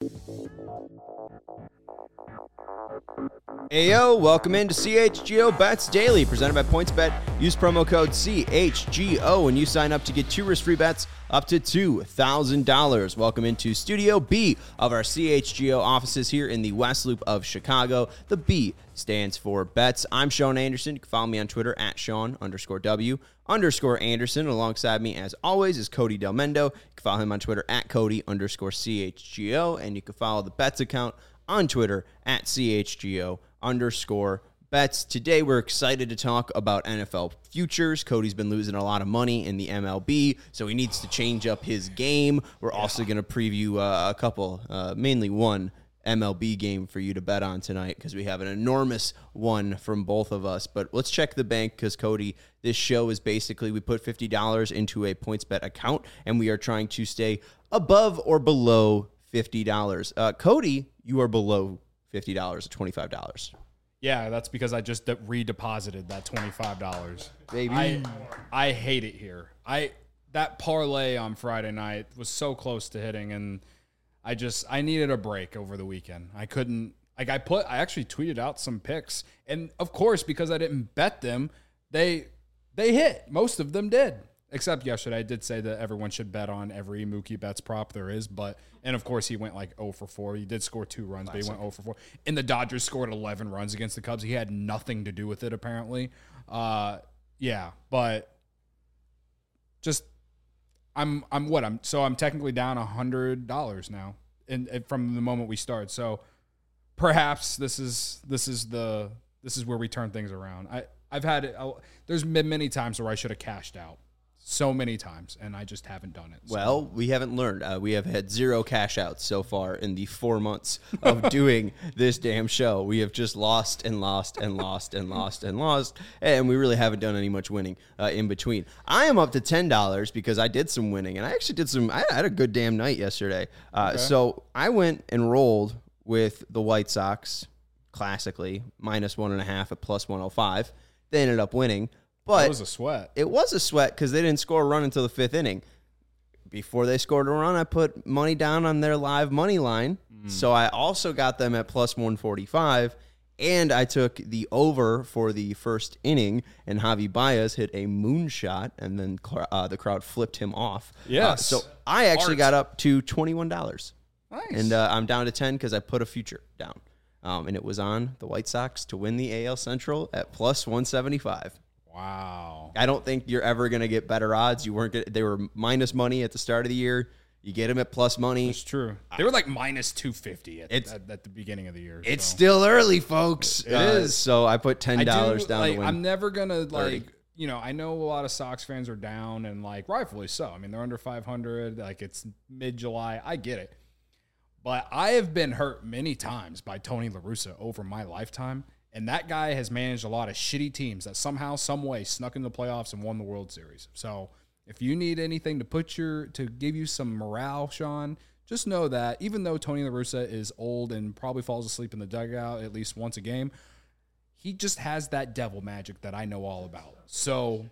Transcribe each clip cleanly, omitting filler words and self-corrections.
Ayo, welcome into CHGO Bets Daily, presented by PointsBet. Use promo code CHGO when you sign up to get 2 risk-free bets up to $2,000. Welcome into Studio B of our CHGO offices here in the West Loop of Chicago. The B stands for bets. I'm Sean Anderson. You can follow me on Twitter at Sean_W_Anderson. Alongside me, as always, is Cody Del Mendo. You can follow him on Twitter at Cody_CHGO. And you can follow the bets account on Twitter at CHGO_bets. Today, we're excited to talk about NFL futures. Cody's been losing a lot of money in the MLB, so he needs to change up his game. We're also going to preview a couple, mainly one MLB game for you to bet on tonight because we have an enormous one from both of us. But let's check the bank because, Cody, this show is basically we put $50 into a PointsBet account, and we are trying to stay above or below $50. Cody, you are below $50 at $25. Yeah, that's because I just redeposited that $25. Baby. I hate it here. That parlay on Friday night was so close to hitting, and I needed a break over the weekend. I couldn't I actually tweeted out some picks, and of course, because I didn't bet them, they hit. Most of them did. Except yesterday, I did say that everyone should bet on every Mookie Betts prop there is. And of course, he went like 0 for 4. He did score 2 runs, but he went 0 for 4. And the Dodgers scored 11 runs against the Cubs. He had nothing to do with it, apparently. But just I'm technically down $100 now, and from the moment we start. So perhaps this is where we turn things around. There's been many times where I should have cashed out. So many times, and I just haven't done it. So. Well, we haven't learned. We have had 0 cash outs so far in the 4 months of doing this damn show. We have just lost and lost and lost and lost and lost, and we really haven't done any much winning in between. I am up to $10 because I did some winning, and I actually I had a good damn night yesterday. Okay. So I went and rolled with the White Sox, classically, -1.5 at +105. They ended up winning. But it was a sweat. It was a sweat because they didn't score a run until the 5th inning. Before they scored a run, I put money down on their live money line. So I also got them at +145, and I took the over for the first inning, and Javi Baez hit a moonshot, and then the crowd flipped him off. Yes. So I actually got up to $21. Nice. And I'm down to 10 because I put a future down. And it was on the White Sox to win the AL Central at +175. Wow. I don't think you're ever going to get better odds. They were minus money at the start of the year. You get them at plus money. It's true. They were like -250 at the beginning of the year. It's still early, folks. It is. So I put $10 down to win. I'm never going to I know a lot of Sox fans are down, and rightfully so. I mean, they're under 500. It's mid-July. I get it. But I have been hurt many times by Tony La Russa over my lifetime. And that guy has managed a lot of shitty teams that somehow, some way snuck into the playoffs and won the World Series. So if you need anything to give you some morale, Sean, just know that even though Tony La Russa is old and probably falls asleep in the dugout at least once a game, he just has that devil magic that I know all about. So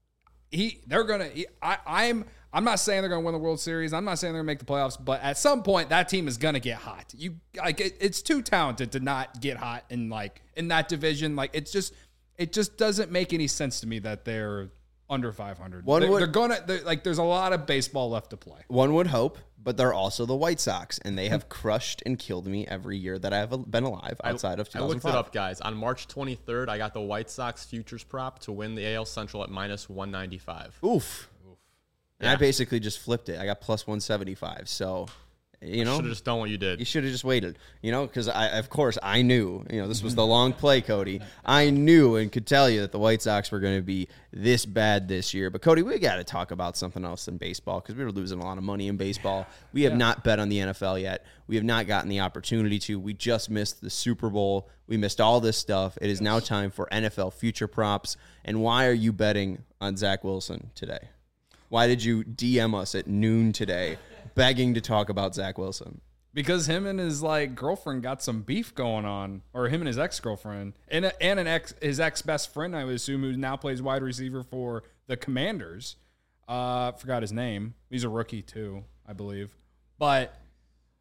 I'm not saying they're going to win the World Series. I'm not saying they're going to make the playoffs, but at some point that team is going to get hot. It's too talented to not get hot in that division. It just doesn't make any sense to me that they're under 500. There's a lot of baseball left to play. One would hope, but they're also the White Sox, and they have crushed and killed me every year that I've been alive outside of 2005. I looked it up, guys. On March 23rd, I got the White Sox futures prop to win the AL Central at -195. Oof. And I basically just flipped it. I got +175. So, you should have just done what you did. You should have just waited, because I knew, this was the long play, Cody. I knew and could tell you that the White Sox were going to be this bad this year. But, Cody, we got to talk about something else in baseball because we were losing a lot of money in baseball. We have not bet on the NFL yet. We have not gotten the opportunity to. We just missed the Super Bowl. We missed all this stuff. It is now time for NFL future props. And why are you betting on Zach Wilson today? Why did you DM us at noon today begging to talk about Zach Wilson? Because him and his girlfriend got some beef going on, or him and his ex-girlfriend, and his ex-best friend, I would assume, who now plays wide receiver for the Commanders. Forgot his name. He's a rookie too, I believe. But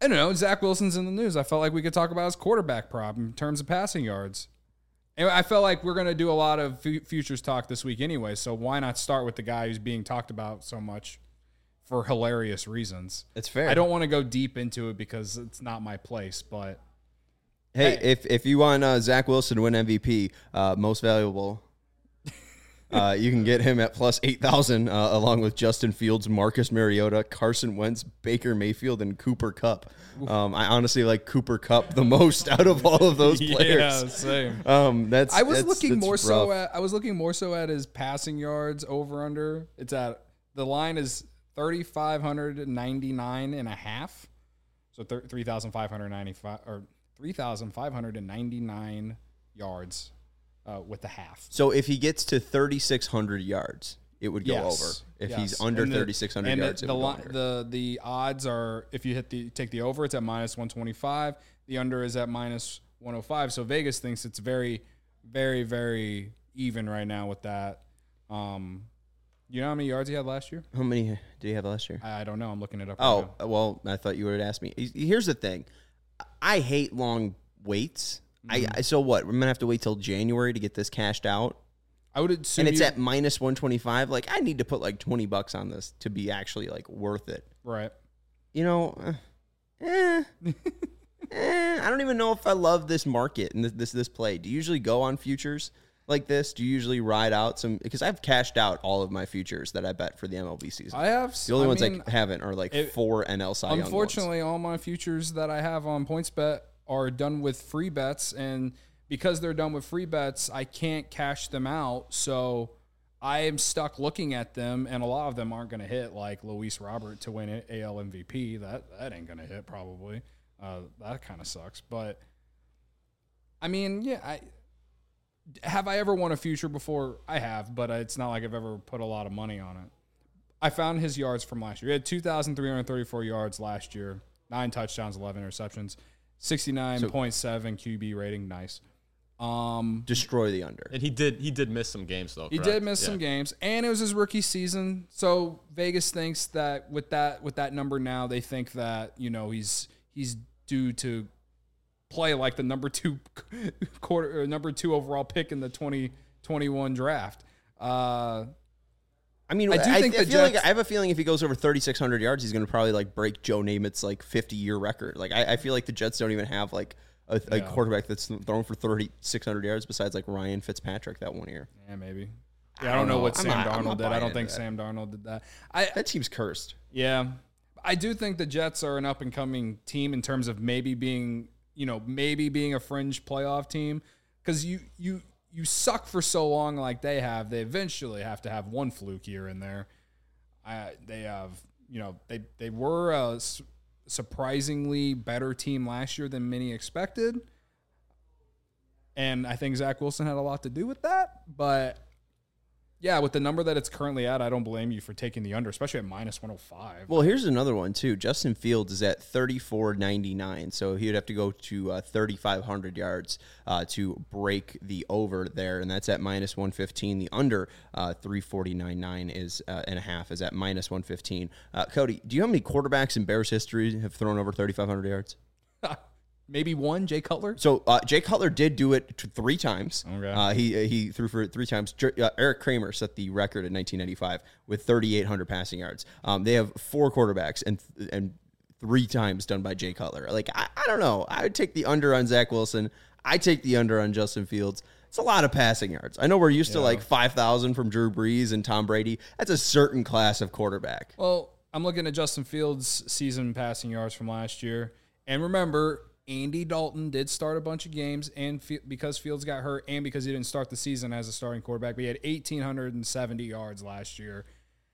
I don't know. Zach Wilson's in the news. I felt like we could talk about his quarterback prop in terms of passing yards. And I felt like we're going to do a lot of futures talk this week anyway, so why not start with the guy who's being talked about so much for hilarious reasons? It's fair. I don't want to go deep into it because it's not my place, but... Hey, if you want Zach Wilson to win MVP, most valuable, you can get him at plus 8,000 along with Justin Fields, Marcus Mariota, Carson Wentz, Baker Mayfield, and Cooper Kupp. I honestly like Cooper Kupp the most out of all of those players. Yeah, same. I was looking more so at his passing yards over under. The line is 3,599 and a half. So 3,595 or 3,599 yards with the half. So if he gets to 3,600 yards, it would go over. If he's under 3,600 yards, it would go under. The odds are, if you take the over, it's at minus 125. The under is at minus 105. So Vegas thinks it's very, very, very even right now with that. You know how many yards he had last year? How many did he have last year? I don't know. I'm looking it up. Oh, right now. Well, I thought you would have asked me. Here's the thing. I hate long waits. So what? We're going to have to wait till January to get this cashed out? I would assume. And it's at minus 125. Like, I need to put like $20 on this to be actually like worth it. Right. You know, I don't even know if I love this market and this play. Do you usually go on futures like this? Do you usually ride out some? Because I've cashed out all of my futures that I bet for the MLB season. I have. The only ones I haven't are like 4 NL Cy Young ones. Unfortunately, all my futures that I have on PointsBet are done with free bets, and because they're done with free bets, I can't cash them out. So I am stuck looking at them, and a lot of them aren't going to hit, like Luis Robert to win AL MVP. That ain't going to hit probably. That kind of sucks. But I mean, yeah, have I ever won a future before? I have, but it's not like I've ever put a lot of money on it. I found his yards from last year. He had 2,334 yards last year, 9 touchdowns, 11 interceptions, 69.7 QB rating. Nice. Destroy the under. And he did miss some games though. He did miss some games, and it was his rookie season. So Vegas thinks that with that number now, they think that, you know, he's due to play like the number 2 overall pick in the 2021 draft. I mean, I have a feeling if he goes over 3,600 yards, he's going to probably like break Joe Namath's like 50-year record. Like I feel like the Jets don't even have like a quarterback that's thrown for 3,600 yards besides like Ryan Fitzpatrick that one year. Yeah, maybe. Yeah, I don't know what Sam Darnold did. I don't think Sam Darnold did that. That team's cursed. Yeah. I do think the Jets are an up-and-coming team in terms of maybe being a fringe playoff team, because you suck for so long like they have. They eventually have to have one fluke here and there. They were a surprisingly better team last year than many expected, and I think Zach Wilson had a lot to do with that. But yeah, with the number that it's currently at, I don't blame you for taking the under, especially at minus 105. Well, here's another one too. Justin Fields is at 3,499, so he would have to go to 3,500 yards to break the over there, and that's at minus 115. The under 349.9 is and a half is at minus 115. Cody, do you know how many quarterbacks in Bears history have thrown over 3,500 yards? Maybe one, Jay Cutler. So Jay Cutler did do it 3 times. Okay. He threw for 3 times. Eric Kramer set the record in 1995 with 3,800 passing yards. They have 4 quarterbacks and 3 times done by Jay Cutler. Like I don't know. I would take the under on Zach Wilson. I take the under on Justin Fields. It's a lot of passing yards. I know we're used to like 5,000 from Drew Brees and Tom Brady. That's a certain class of quarterback. Well, I'm looking at Justin Fields' season passing yards from last year, and remember, Andy Dalton did start a bunch of games, and because Fields got hurt and because he didn't start the season as a starting quarterback, but he had 1,870 yards last year.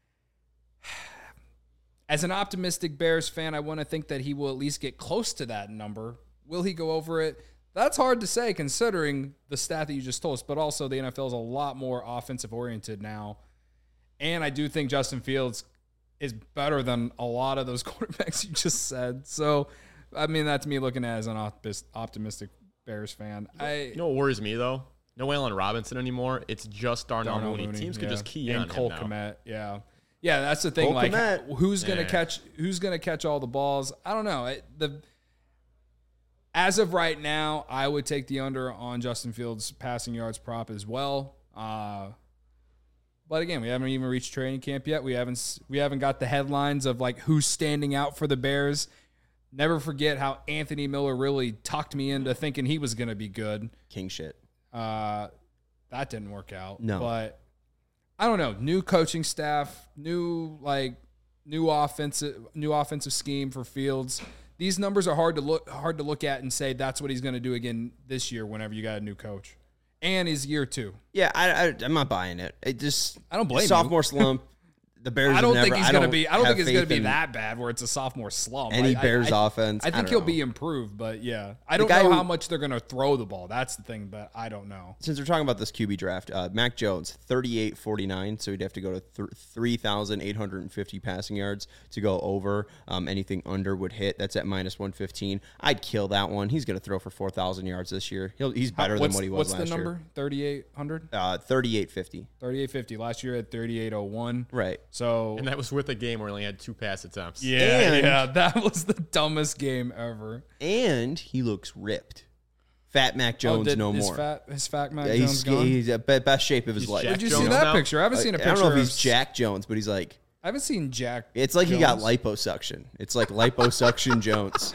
As an optimistic Bears fan, I want to think that he will at least get close to that number. Will he go over it? That's hard to say considering the stat that you just told us, but also the NFL is a lot more offensive-oriented now. And I do think Justin Fields is better than a lot of those quarterbacks you just said. So, I mean, that's me looking at it as an optimistic Bears fan. You know what worries me, though? No Allen Robinson anymore. It's just Darnell Mooney. Teams could just key in on Cole him now. Kmet, yeah. Yeah, that's the thing. Cole Like, Kmet. who's gonna catch all the balls? I don't know. As of right now, I would take the under on Justin Fields' passing yards prop as well. But again, we haven't even reached training camp yet. We haven't got the headlines of like who's standing out for the Bears. Never forget how Anthony Miller really talked me into thinking he was going to be good. King shit. That didn't work out. No. But I don't know. New coaching staff, new offensive scheme for Fields. These numbers are hard to look at and say that's what he's going to do again this year whenever you got a new coach. And his year 2. Yeah, I'm not buying it. I don't blame you. Sophomore slump. The Bears. I don't think he's going to be. I don't have think it's going to faith be in that bad where it's a sophomore slump. Any Bears offense. I think he'll be improved, but yeah, I don't know how much they're going to throw the ball. That's the thing, but I don't know. Since we're talking about this QB draft, Mac Jones 38.49, so he'd have to go to 3,850 passing yards to go over. Anything under would hit. That's at -115. I'd kill that one. He's going to throw for 4,000 yards this year. He's better than what he was last year. What's the number? 3,800. 38.50. 38.50. Last year at 38.01. Right. So And that was with a game where he only had 2 pass attempts. Yeah, that was the dumbest game ever. And he looks ripped. Fat Mac Jones no more. His fat Mac Jones gone? He's at best shape of his life. Jack Did you see Jones that now? picture? I haven't seen a picture. I don't know if he's Jack Jones, but he's like. I haven't seen Jack. It's like Jones. he got liposuction. It's like liposuction Jones.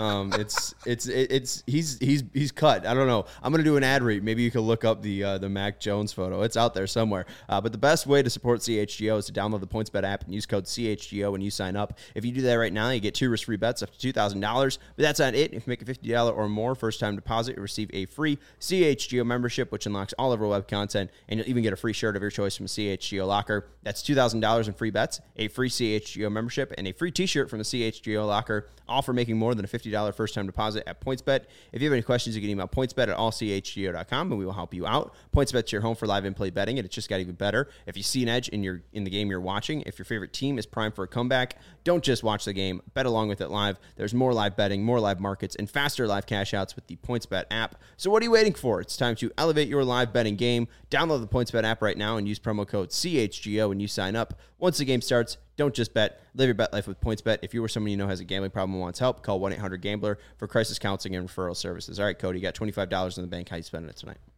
He's cut. I don't know. I'm gonna do an ad read. Maybe you can look up the Mac Jones photo. It's out there somewhere. But the best way to support CHGO is to download the PointsBet app and use code CHGO when you sign up. If you do that right now, you get 2 risk-free bets up to $2,000. But that's not it. If you make a $50 or more first-time deposit, you receive a free CHGO membership, which unlocks all of our web content, and you'll even get a free shirt of your choice from CHGO Locker. That's $2,000 in free bets, a free CHGO membership, and a free t-shirt from the CHGO Locker, all for making more than a $50 first-time deposit at PointsBet. If you have any questions, you can email pointsbet@allchgo.com, and we will help you out. PointsBet's your home for live in-play betting, and it's just got even better. If you see an edge in the game you're watching, if your favorite team is primed for a comeback, don't just watch the game. Bet along with it live. There's more live betting, more live markets, and faster live cash outs with the PointsBet app. So what are you waiting for? It's time to elevate your live betting game. Download the PointsBet app right now and use promo code CHGO when you sign up. Once the game starts, don't just bet. Live your bet life with PointsBet. If you or someone you know has a gambling problem and wants help, call 1-800-GAMBLER for crisis counseling and referral services. All right, Cody, you got $25 in the bank. How you spending it tonight?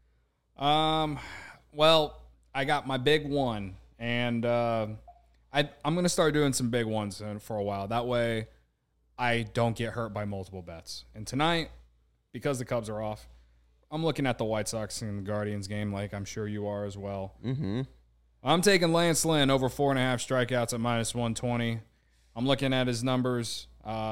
Well, I got my big one, and I'm going to start doing some big ones for a while. That way I don't get hurt by multiple bets. And tonight, because the Cubs are off, I'm looking at the White Sox and the Guardians game like I'm sure you are as well. Mm-hmm. I'm taking Lance Lynn over 4.5 strikeouts at -120. I'm looking at his numbers.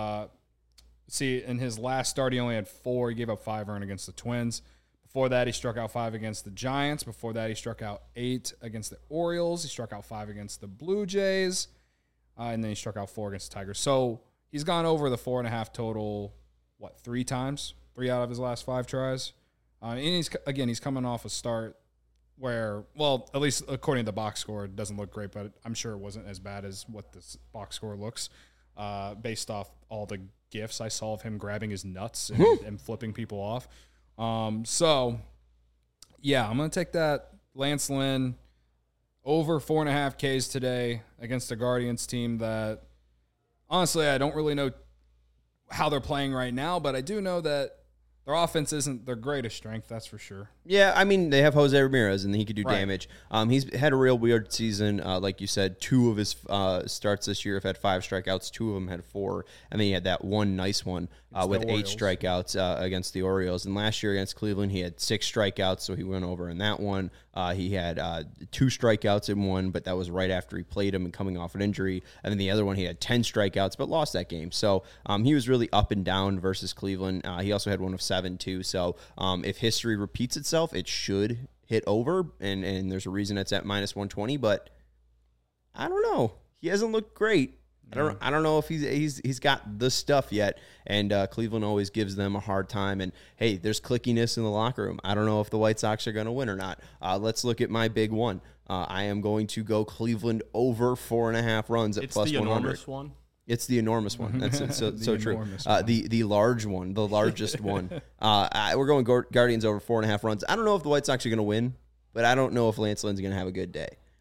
See, in his last start, he only had 4. He gave up 5 earned against the Twins. Before that, he struck out 5 against the Giants. Before that, he struck out 8 against the Orioles. He struck out 5 against the Blue Jays. And then he struck out 4 against the Tigers. So he's gone over the 4.5 total, 3 times? 3 out of his last 5 tries. And he's coming off a start where, well, at least according to the box score, it doesn't look great, but I'm sure it wasn't as bad as what this box score looks based off all the GIFs I saw of him grabbing his nuts and flipping people off. So, yeah, I'm going to take that Lance Lynn over 4.5 Ks today against a Guardians team that, honestly, I don't really know how they're playing right now, but I do know that their offense isn't their greatest strength, that's for sure. Yeah, I mean, they have Jose Ramirez, and he could do damage. He's had a real weird season. Like you said, 2 of his starts this year have had 5 strikeouts. 2 of them had 4. And then he had that one nice one with 8 strikeouts against the Orioles. And last year against Cleveland, he had 6 strikeouts, so he went over in that one. He had 2 strikeouts in one, but that was right after he played him and coming off an injury. And then the other one, he had 10 strikeouts, but lost that game. So he was really up and down versus Cleveland. He also had one of 7, too. So if history repeats itself, it should hit over, and there's a reason it's at -120, but I don't know. He hasn't looked great. I don't know if he's got the stuff yet, and Cleveland always gives them a hard time. And hey, there's clickiness in the locker room. I don't know if the White Sox are going to win or not. Let's look at my big one. I am going to go Cleveland over 4.5 runs at it's plus the 100. Enormous one. It's the enormous one. That's so true. One. The large one, the largest one. We're going Guardians over 4.5 runs. I don't know if the White Sox are going to win, but I don't know if Lance Lynn's going to have a good day.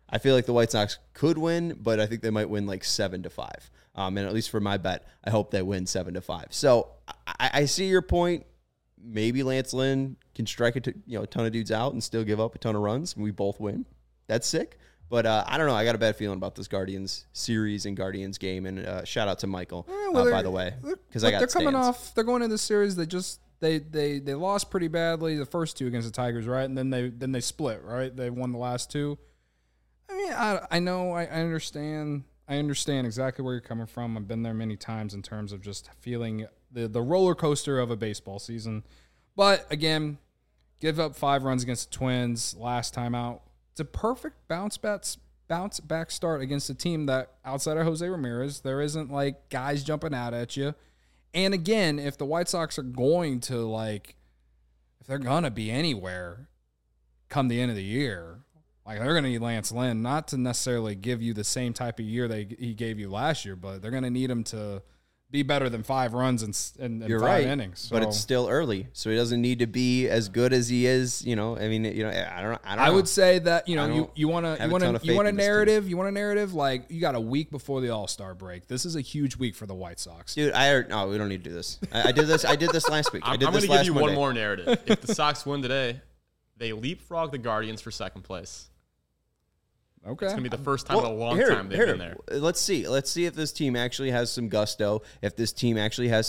I feel like the White Sox could win, but I think they might win like 7-5. And at least for my bet, I hope they win 7-5. So I see your point. Maybe Lance Lynn can strike a ton of dudes out and still give up a ton of runs, and we both win. That's sick. But I don't know. I got a bad feeling about this Guardians series and Guardians game. And shout out to Michael, by the way, because I got they're coming stands. off. They're going into the series. They lost pretty badly the first two against the Tigers, right? And then they split, right? They won the last two. I mean, I know. I understand. I understand exactly where you're coming from. I've been there many times in terms of just feeling the roller coaster of a baseball season. But again, give up 5 runs against the Twins last time out. It's a perfect bounce back start against a team that outside of Jose Ramirez, there isn't like guys jumping out at you. And again, if the White Sox are going to if they're gonna be anywhere come the end of the year, like they're gonna need Lance Lynn, not to necessarily give you the same type of year he gave you last year, but they're gonna need him to be better than 5 runs in You're 5 right, innings. So. but it's still early, so he doesn't need to be as good as he is. I mean, I don't know. I would say that you want have a ton of faith a in this narrative. Like you got a week before the All-Star break. This is a huge week for the White Sox, dude. No, we don't need to do this. I did this. I did this last week. I'm going to give you one more narrative. If the Sox win today, they leapfrog the Guardians for second place. Okay. It's going to be the first time in a long time they've been there. Let's see. Let's see if this team actually has some gusto. If this team actually has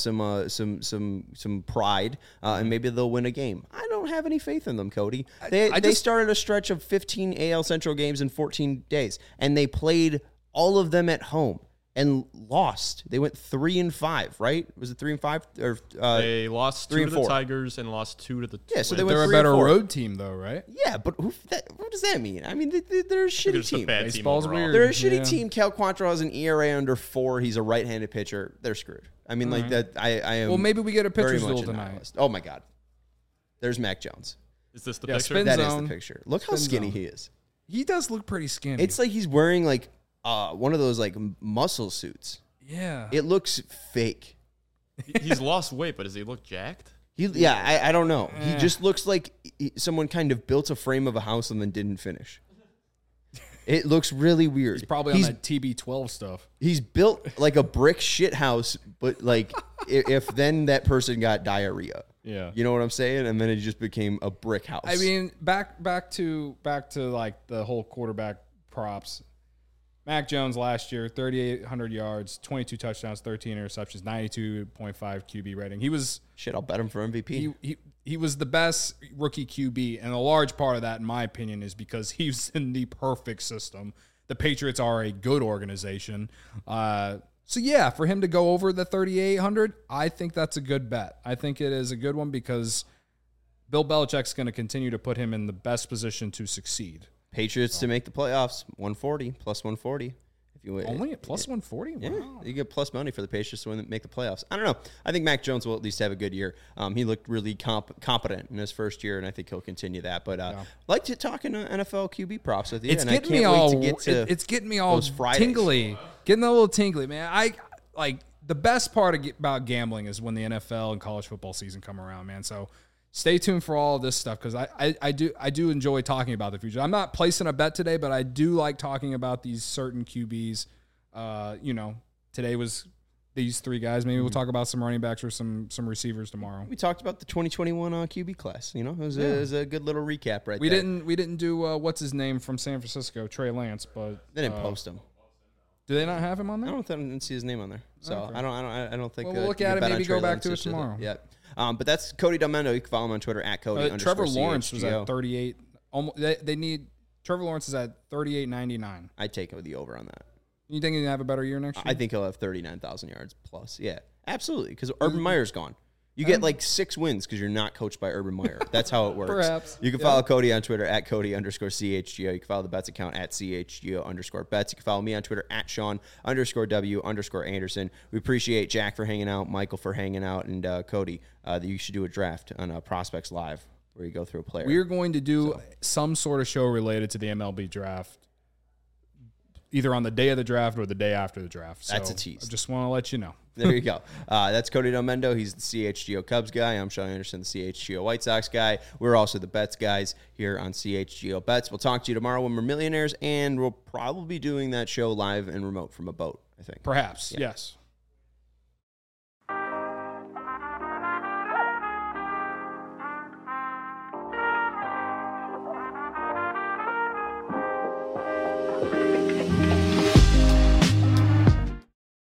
some pride, and maybe they'll win a game. I don't have any faith in them, Cody. They started a stretch of 15 AL Central games in 14 days, and they played all of them at home and lost. They went 3-5, right? Was it 3-5? Or they lost 2 to the 3-4. Tigers and lost 2 to the Yeah, so Twins. they went They're a 3-4. better road team, though, right? Yeah, but what does that mean? I mean, they're a shitty just a team. bad team Baseball's overall. weird. They're a shitty Yeah. team. Cal Quantrill has an ERA under 4. He's a right-handed pitcher. They're screwed. I mean, like that. I am. Well, maybe we get a very pitcher's much duel a tonight. nihilist. Oh my God. There's Mac Jones. Is this the Yeah, picture? spin That is zone. the picture. Look how Spin skinny zone. he is. He does look pretty skinny. It's like he's wearing like one of those like muscle suits. yeah. It looks fake. He's lost weight, but does he look jacked? I don't know. He Eh. just looks like someone kind of built a frame of a house and then didn't finish. It looks really weird. He's probably on that TB12 stuff. He's built like a brick shit house, but like if then that person got diarrhea. Yeah. You know what I'm saying? And then it just became a brick house. I mean, back to like the whole quarterback props. Mac Jones last year, 3,800 yards, 22 touchdowns, 13 interceptions, 92.5 QB rating. He was shit, I'll bet him for MVP. he was the best rookie QB, and a large part of that, in my opinion, is because he's in the perfect system. The Patriots are a good organization. So, yeah, for him to go over the 3,800, I think that's a good bet. I think it is a good one because Bill Belichick's going to continue to put him in the best position to succeed. Patriots to make the playoffs, 140 plus 140. If you Only at plus 140? Yeah, Wow. you get plus money for the Patriots to make the playoffs. I don't know. I think Mac Jones will at least have a good year. He looked really competent in his first year, and I think he'll continue that. But like to talk in NFL QB props with you. It's and getting I can't me wait all. to get to It's getting me all those Fridays. tingly, getting a little tingly, man. I like the best part about gambling is when the NFL and college football season come around, man. So stay tuned for all of this stuff because I do enjoy talking about the future. I'm not placing a bet today, but I do like talking about these certain QBs. Today was these 3 guys. Maybe we'll talk about some running backs or some receivers tomorrow. We talked about the 2021 QB class. You know, it was a good little recap right We there. didn't do what's his name from San Francisco, Trey Lance, but They didn't post him. Do they not have him on there? I didn't see his name on there, so Okay. I don't think. Well, we'll look you at can it, bet on maybe Trey go back Lance to it just tomorrow. Yeah, but that's Cody Delmendo. You can follow him on Twitter at Cody. Trevor Lawrence was _CHGO. at 38. Almost, they need Trevor Lawrence is at 38.99. I'd take the over on that. You think he's gonna have a better year next year? I think he'll have 39,000 yards plus. Yeah, absolutely. Because Urban Meyer's gone. You get like 6 wins because you're not coached by Urban Meyer. That's how it works. Perhaps. You can follow Cody on Twitter at Cody _CHGO. You can follow the Bets account at CHGO_bets. You can follow me on Twitter at Sean_W_Anderson. We appreciate Jack for hanging out, Michael for hanging out, and Cody. You should do a draft on Prospects Live where you go through a player. We're going to do some sort of show related to the MLB draft either on the day of the draft or the day after the draft. So That's a tease. I just want to let you know. There you go. That's Cody Domendo. He's the CHGO Cubs guy. I'm Sean Anderson, the CHGO White Sox guy. We're also the bets guys here on CHGO Bets. We'll talk to you tomorrow when we're millionaires, and we'll probably be doing that show live and remote from a boat, I think. Perhaps, yes.